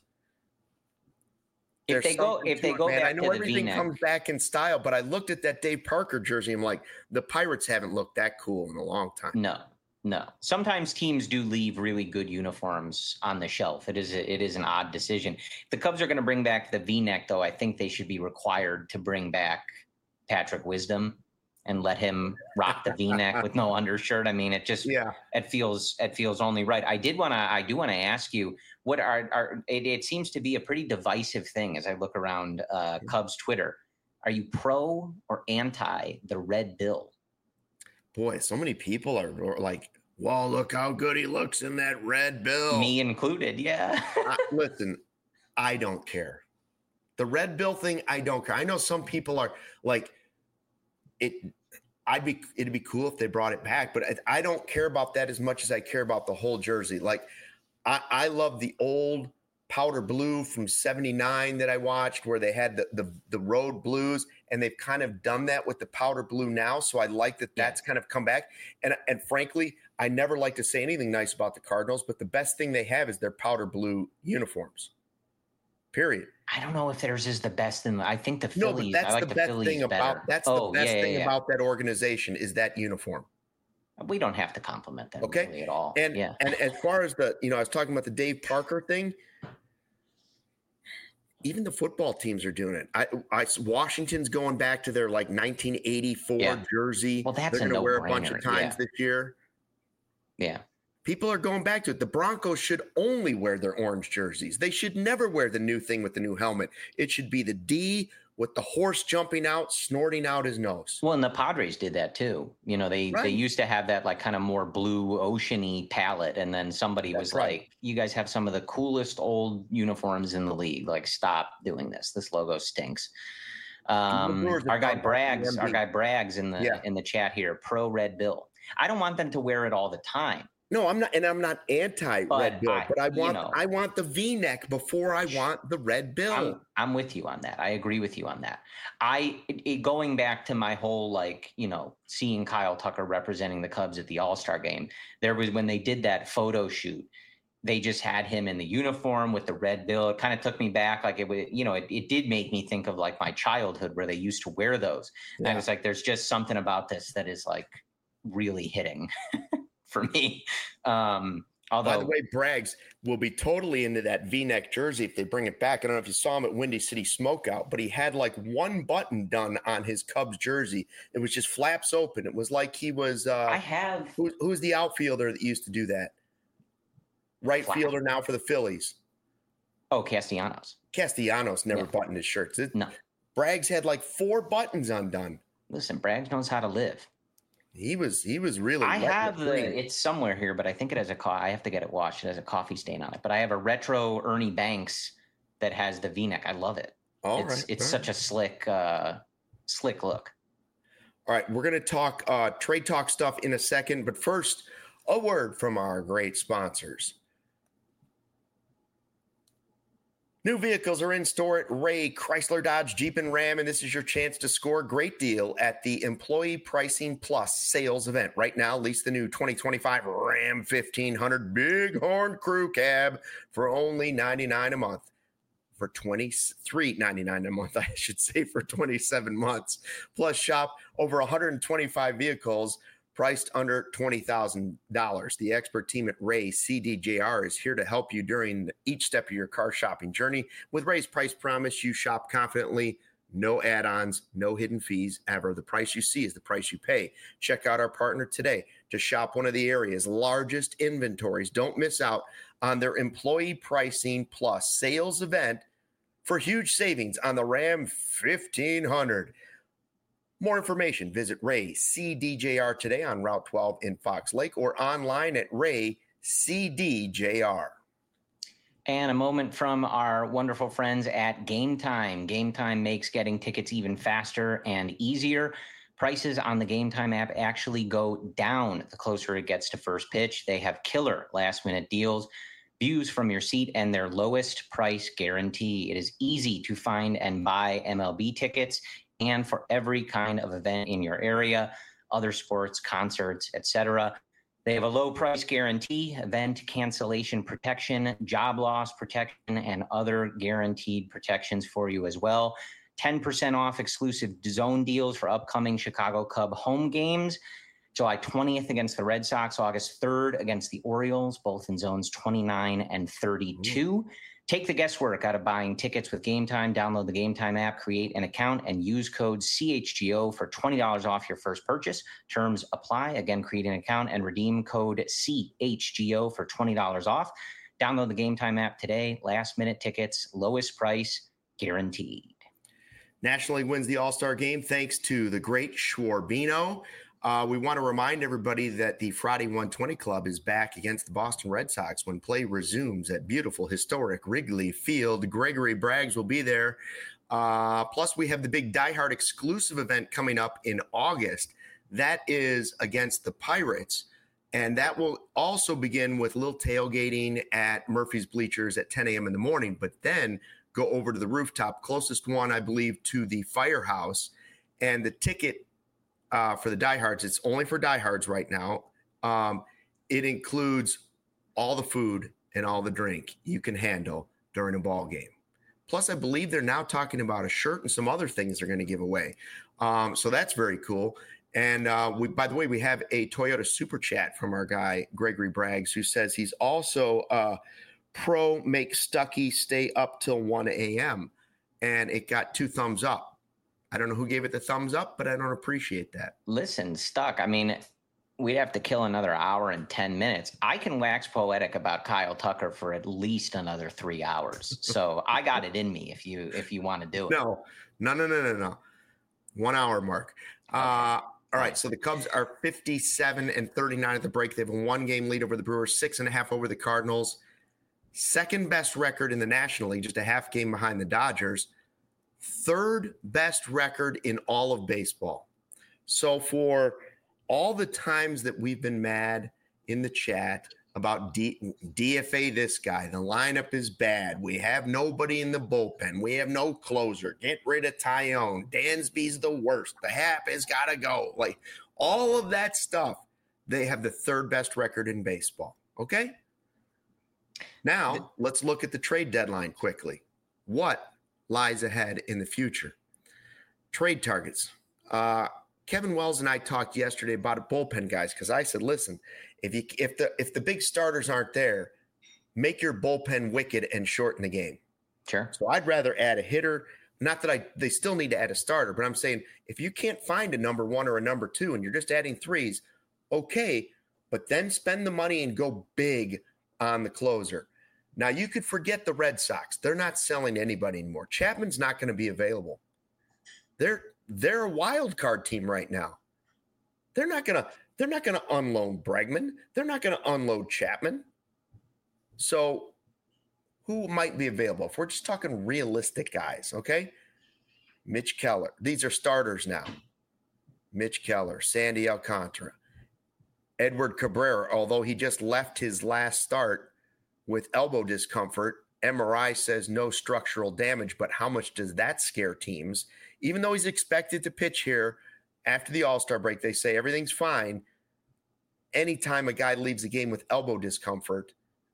If they go back I know to everything the V-neck comes back in style, but I looked at that Dave Parker jersey. I'm like, the Pirates haven't looked that cool in a long time. No. Sometimes teams do leave really good uniforms on the shelf. It is an odd decision. If the Cubs are going to bring back the V-neck, though, I think they should be required to bring back Patrick Wisdom and let him rock the V-neck with no undershirt. I mean, it just it feels only right. I do want to ask you, what it seems to be a pretty divisive thing as I look around Cubs Twitter. Are you pro or anti the red bill? Boy, so many people are like, "Wow, look how good he looks in that red bill." Me included, yeah. Listen, I don't care. The red bill thing, I don't care. I know some people are like, it'd be cool if they brought it back, but I don't care about that as much as I care about the whole jersey. Like, I love the old powder blue from 79 that I watched where they had the road blues, and they've kind of done that with the powder blue now. So I like that that's kind of come back. And frankly, I never like to say anything nice about the Cardinals, but the best thing they have is their powder blue uniforms. Period. I don't know if theirs is the best I think the Phillies. No, but that's the best thing about that organization is that uniform. We don't have to compliment them really at all. And as far as I was talking about the Dave Parker thing, even the football teams are doing it. Washington's going back to their like 1984 jersey. Well, that's they're going to wear a bunch of times this year. Yeah. People are going back to it. The Broncos should only wear their orange jerseys. They should never wear the new thing with the new helmet. It should be the D with the horse jumping out, snorting out his nose. Well, and the Padres did that too. They used to have that like kind of more blue ocean-y palette. And then somebody was like, you guys have some of the coolest old uniforms in the league. Like, stop doing this. This logo stinks. Our guy Braggs in the chat here, pro Red Bill. I don't want them to wear it all the time. No, I'm not, and I'm not anti-red bill, but I want the V-neck before I want the red bill. I'm with you on that. I agree with you on that. Going back to my whole seeing Kyle Tucker representing the Cubs at the All-Star game, there was when they did that photo shoot, they just had him in the uniform with the red bill. It kind of took me back, like it did make me think of like my childhood where they used to wear those. And I was like, there's just something about this that is like really hitting. For me. Although, by the way, Braggs will be totally into that V-neck jersey if they bring it back. I don't know if you saw him at Windy City Smokeout, but he had like one button done on his Cubs jersey. It was just flaps open. It was like he was who's the outfielder that used to do that? Right fielder now for the Phillies. Oh, Castellanos. Castellanos never buttoned his shirts. No. Braggs had like 4 buttons undone. Listen, Braggs knows how to live. He was really. I have it's somewhere here, but I think it has I have to get it washed. It has a coffee stain on it. But I have a retro Ernie Banks that has the V-neck. I love it. It's such a slick look. All right, we're going to talk trade talk stuff in a second, but first, a word from our great sponsors. New vehicles are in store at Ray Chrysler Dodge Jeep and Ram, and this is your chance to score a great deal at the Employee Pricing Plus sales event. Right now, lease the new 2025 Ram 1500 Bighorn Crew Cab for only $99 a month. For $23.99 a month, I should say, for 27 months. Plus, shop over 125 vehicles priced under $20,000. The expert team at Ray CDJR is here to help you during each step of your car shopping journey. With Ray's price promise, you shop confidently. No add-ons, no hidden fees ever. The price you see is the price you pay. Check out our partner today to shop one of the area's largest inventories. Don't miss out on their Employee Pricing Plus sales event for huge savings on the Ram 1500. More information, visit Ray CDJR today on Route 12 in Fox Lake or online at Ray CDJR. And a moment from our wonderful friends at Game Time. Game Time makes getting tickets even faster and easier. Prices on the Game Time app actually go down the closer it gets to first pitch. They have killer last-minute deals, views from your seat, and their lowest price guarantee. It is easy to find and buy MLB tickets, and for every kind of event in your area, other sports, concerts, etc. They have a low price guarantee, event cancellation protection, job loss protection, and other guaranteed protections for you as well. 10% off exclusive zone deals for upcoming Chicago Cub home games. July 20th against the Red Sox, August 3rd against the Orioles, both in zones 29 and 32. Take the guesswork out of buying tickets with Game Time. Download the Game Time app, create an account, and use code CHGO for $20 off your first purchase. Terms apply. Again, create an account and redeem code CHGO for $20 off. Download the Game Time app today. Last-minute tickets, lowest price, guaranteed. National League wins the All-Star game thanks to the great Schwarbino. We want to remind everybody that the Friday 120 Club is back against the Boston Red Sox when play resumes at beautiful, historic Wrigley Field. Gregory Braggs will be there. Plus, we have the big Die Hard exclusive event coming up in August. That is against the Pirates. And that will also begin with a little tailgating at Murphy's Bleachers at 10 a.m. in the morning, but then go over to the rooftop, closest one, I believe, to the Firehouse. And the ticket for the diehards, it's only for diehards right now. It includes all the food and all the drink you can handle during a ball game. Plus, I believe they're now talking about a shirt and some other things they're going to give away. So that's very cool. And by the way, we have a Toyota Super Chat from our guy, Gregory Braggs, who says he's also pro make Stuckey stay up till 1 a.m. And it got 2 thumbs up. I don't know who gave it the thumbs up, but I don't appreciate that. Listen, Stuck, I mean, we'd have to kill another hour and 10 minutes. I can wax poetic about Kyle Tucker for at least another 3 hours. So I got it in me if you want to do it. No. 1 hour mark. Okay. All right. So the Cubs are 57-39 at the break. They have a 1-game lead over the Brewers, 6.5 over the Cardinals. Second best record in the National League, just a half game behind the Dodgers. Third best record in all of baseball. So for all the times that we've been mad in the chat about DFA this guy, the lineup is bad, we have nobody in the bullpen, we have no closer, get rid of Tyone, Dansby's the worst, the Hap has got to go. Like all of that stuff, they have the third best record in baseball. Okay? Now, let's look at the trade deadline quickly. What lies ahead in the future? Trade targets. Kevin Wells and I talked yesterday about bullpen guys because I said, listen, if the big starters aren't there, make your bullpen wicked and shorten the game. Sure. So I'd rather add a hitter. Not that they still need to add a starter, but I'm saying if you can't find a number 1 or a number 2 and you're just adding 3s, okay, but then spend the money and go big on the closer. Now, you could forget the Red Sox. They're not selling to anybody anymore. Chapman's not going to be available. They're a wild card team right now. They're not going to unload Bregman. They're not going to unload Chapman. So who might be available? If we're just talking realistic guys, okay? Mitch Keller. These are starters now. Mitch Keller, Sandy Alcantara, Edward Cabrera, although he just left his last start with elbow discomfort. MRI says no structural damage, but how much does that scare teams? Even though he's expected to pitch here after the All-Star break, they say everything's fine. Anytime a guy leaves the game with elbow discomfort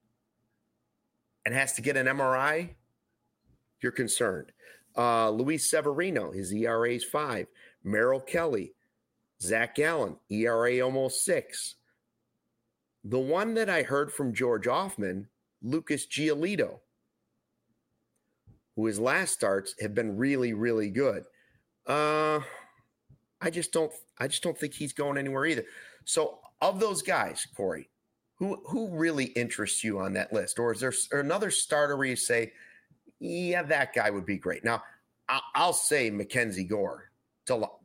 and has to get an MRI, you're concerned. Luis Severino, his ERA is 5. Merrill Kelly, Zach Gallen, ERA almost 6. The one that I heard from George Offman, Lucas Giolito, who his last starts have been really, really good. I just don't think he's going anywhere either. So of those guys, Corey, who really interests you on that list? Or is there another starter where you say, yeah, that guy would be great? Now, I'll say Mackenzie Gore till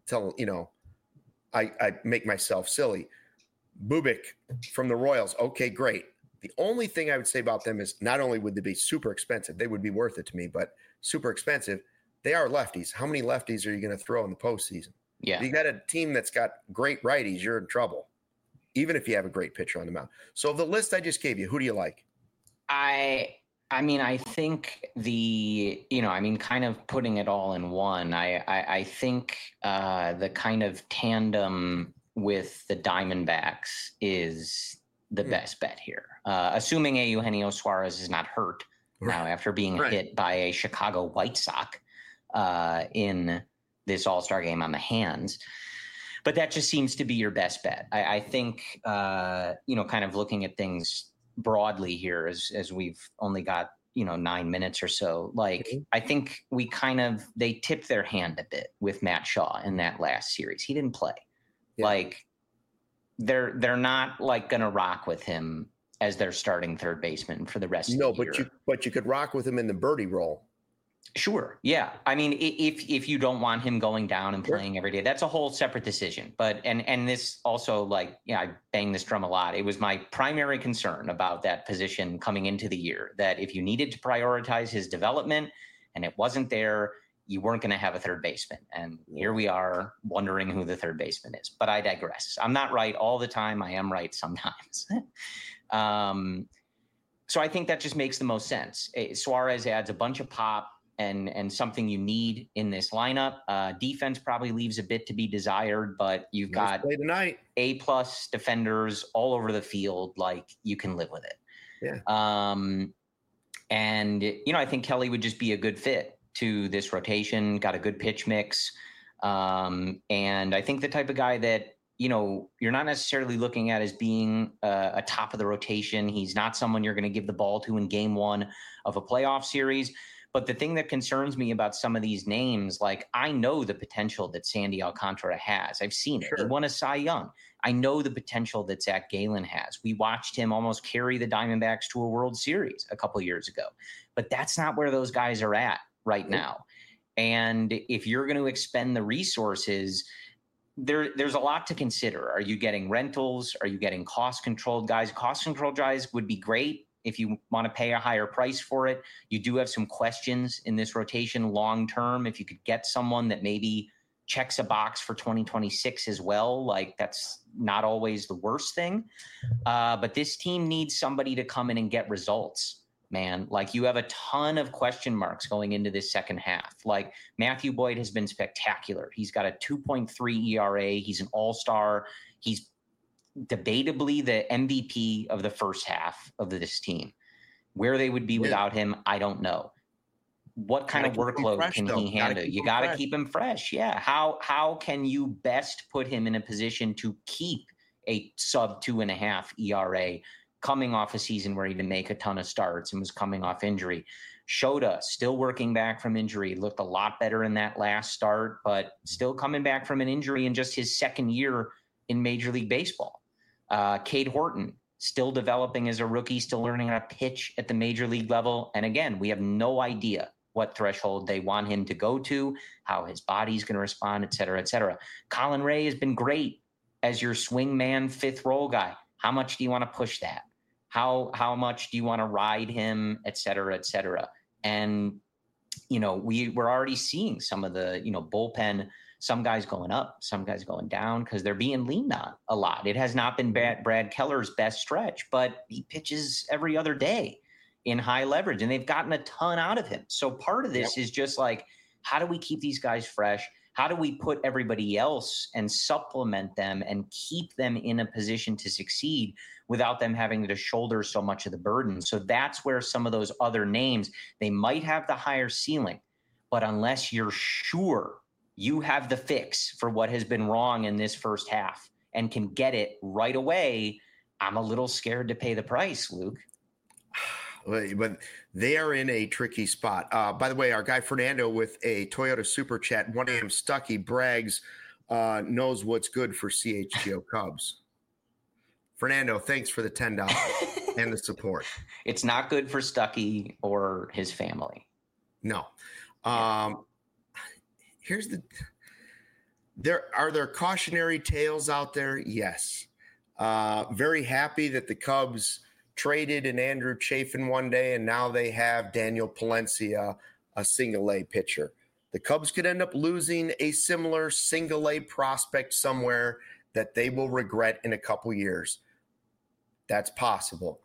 I make myself silly. Bubic from the Royals. Okay, great. The only thing I would say about them is not only would they be super expensive, they would be worth it to me, but super expensive. They are lefties. How many lefties are you going to throw in the postseason? Yeah. If you got a team that's got great righties, you're in trouble, even if you have a great pitcher on the mound. So of the list I just gave you, who do you like? I mean, I think kind of putting it all in one, I think the kind of tandem with the Diamondbacks is the best bet here. Assuming Eugenio Suarez is not hurt now after being hit by a Chicago White Sox in this All-Star game on the hands. But that just seems to be your best bet. I think, kind of looking at things broadly here as we've only got, 9 minutes or so, I think they tipped their hand a bit with Matt Shaw in that last series. He didn't play. Yeah. They're not going to rock with him as their starting third baseman for the rest of the year. No, but you could rock with him in the birdie role. Sure. Yeah. I mean, if you don't want him going down and playing every day, that's a whole separate decision. But, and this also I bang this drum a lot. It was my primary concern about that position coming into the year, that if you needed to prioritize his development and it wasn't there, you weren't going to have a third baseman. And here we are wondering who the third baseman is. But I digress. I'm not right all the time. I am right sometimes. So I think that just makes the most sense. Suarez adds a bunch of pop and something you need in this lineup. Defense probably leaves a bit to be desired, but you've got A+ defenders all over the field. You can live with it. Yeah. I think Kelly would just be a good fit to this rotation, got a good pitch mix. And I think the type of guy that, you're not necessarily looking at as being a top of the rotation. He's not someone you're going to give the ball to in game one of a playoff series. But the thing that concerns me about some of these names, I know the potential that Sandy Alcantara has. I've seen it. He won a Cy Young. I know the potential that Zach Gallen has. We watched him almost carry the Diamondbacks to a World Series a couple years ago. But that's not where those guys are at right now. And if you're going to expend the resources, there's a lot to consider. Are you getting rentals? Are you getting cost-controlled guys? Cost-controlled guys would be great if you want to pay a higher price for it. You do have some questions in this rotation long-term. If you could get someone that maybe checks a box for 2026 as well, that's not always the worst thing. But this team needs somebody to come in and get results, man. You have a ton of question marks going into this second half. Matthew Boyd has been spectacular. He's got a 2.3 ERA. He's an all-star. He's debatably the MVP of the first half of this team. Where they would be without him, I don't know. What kind of workload can he handle? You got to keep him fresh. Yeah. How can you best put him in a position to keep a sub 2.5 ERA coming off a season where he didn't make a ton of starts and was coming off injury? Shota still working back from injury, looked a lot better in that last start, but still coming back from an injury in just his second year in Major League Baseball. Cade Horton still developing as a rookie, still learning how to pitch at the major league level. And again, we have no idea what threshold they want him to go to, how his body's going to respond, et cetera, et cetera. Colin Ray has been great as your swing man, fifth role guy. How much do you want to push that? How much do you want to ride him, et cetera, et cetera? And, we're already seeing some of the, bullpen, some guys going up, some guys going down because they're being leaned on a lot. It has not been Brad Keller's best stretch, but he pitches every other day in high leverage, and they've gotten a ton out of him. So part of this is just how do we keep these guys fresh? How do we put everybody else and supplement them and keep them in a position to succeed without them having to shoulder so much of the burden? So that's where some of those other names, they might have the higher ceiling, but unless you're sure you have the fix for what has been wrong in this first half and can get it right away, I'm a little scared to pay the price, Luke. But they are in a tricky spot. By the way, our guy Fernando with a Toyota Super Chat, 1 a.m. Stucky brags, knows what's good for CHGO Cubs. Fernando, thanks for the $10 and the support. It's not good for Stucky or his family. No. Are there cautionary tales out there? Yes. Very happy that the Cubs traded in Andrew Chafin one day, and now they have Daniel Palencia, a single-A pitcher. The Cubs could end up losing a similar single-A prospect somewhere that they will regret in a couple years. That's possible.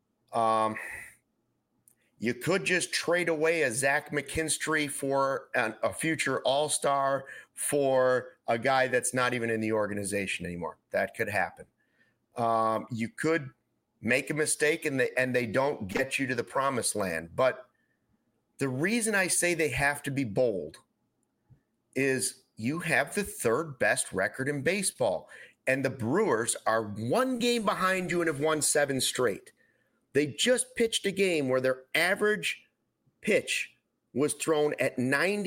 You could just trade away a Zach McKinstry for a future all-star for a guy that's not even in the organization anymore. That could happen. You could make a mistake and they don't get you to the promised land. But the reason I say they have to be bold is you have the third best record in baseball, and the Brewers are 1 game behind you and have won 7 straight. They just pitched a game where their average pitch was thrown at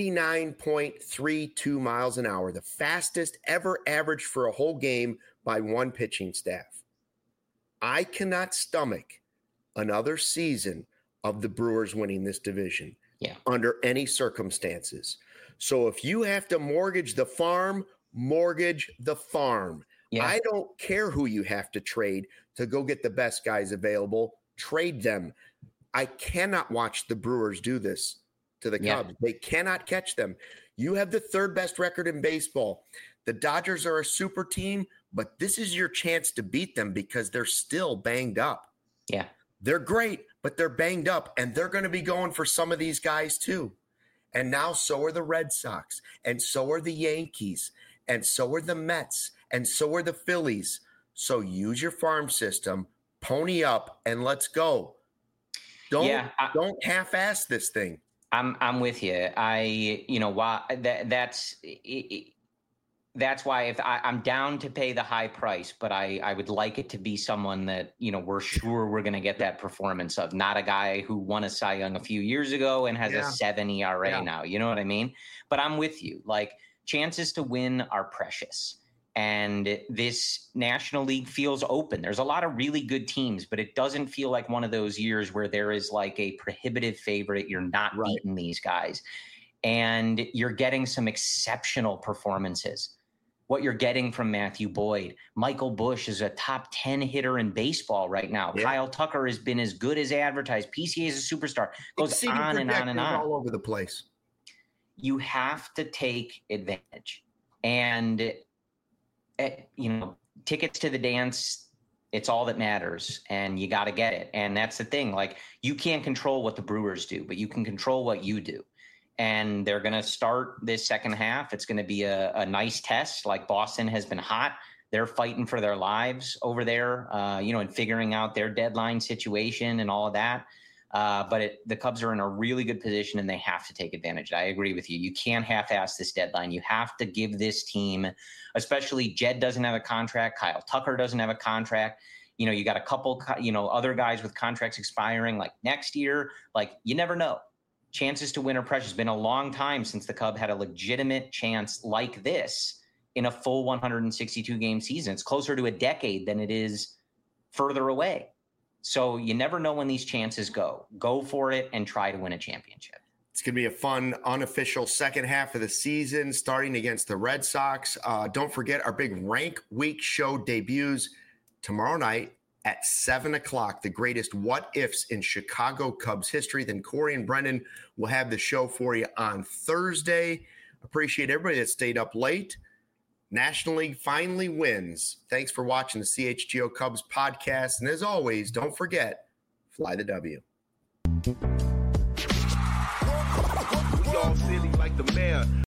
99.32 miles an hour, the fastest ever averaged for a whole game by one pitching staff. I cannot stomach another season of the Brewers winning this division under any circumstances. So if you have to mortgage the farm, mortgage the farm. Yeah. I don't care who you have to trade to go get the best guys available. Trade them. I cannot watch the Brewers do this to the Cubs. They cannot catch them. You have the third best record in baseball. The Dodgers are a super team, but this is your chance to beat them because they're still banged up. Yeah. They're great, but they're banged up, and they're going to be going for some of these guys too. And now so are the Red Sox, and so are the Yankees, and so are the Mets, and so are the Phillies. So use your farm system, pony up, and let's go. Don't half-ass this thing. I'm with you. That's why if I'm down to pay the high price, but I would like it to be someone that, we're sure we're going to get that performance of, not a guy who won a Cy Young a few years ago and has a 7 ERA now. You know what I mean? But I'm with you. Like, chances to win are precious. And this National League feels open. There's a lot of really good teams, but it doesn't feel like one of those years where there is like a prohibitive favorite. You're not beating these guys. And you're getting some exceptional performances. What you're getting from Matthew Boyd. Michael Busch is a top 10 hitter in baseball right now. Yeah. Kyle Tucker has been as good as advertised. PCA is a superstar. Goes on and on and on. All over the place. You have to take advantage. And, tickets to the dance, it's all that matters. And you got to get it. And that's the thing. Like, you can't control what the Brewers do, but you can control what you do. And they're going to start this second half. It's going to be a nice test. Like, Boston has been hot. They're fighting for their lives over there, and figuring out their deadline situation and all of that. But the Cubs are in a really good position, and they have to take advantage. I agree with you. You can't half-ass this deadline. You have to give this team, especially Jed doesn't have a contract. Kyle Tucker doesn't have a contract. You got a couple, other guys with contracts expiring like next year. Like, you never know. Chances to win are precious. It's been a long time since the Cub had a legitimate chance like this in a full 162-game season. It's closer to a decade than it is further away. So you never know when these chances go. Go for it and try to win a championship. It's going to be a fun, unofficial second half of the season, starting against the Red Sox. Don't forget, our big Rank Week show debuts tomorrow night at 7 o'clock, the greatest what-ifs in Chicago Cubs history. Then Corey and Brendan will have the show for you on Thursday. Appreciate everybody that stayed up late. National League finally wins. Thanks for watching the CHGO Cubs podcast. And as always, don't forget, fly the W. We all silly like the mayor.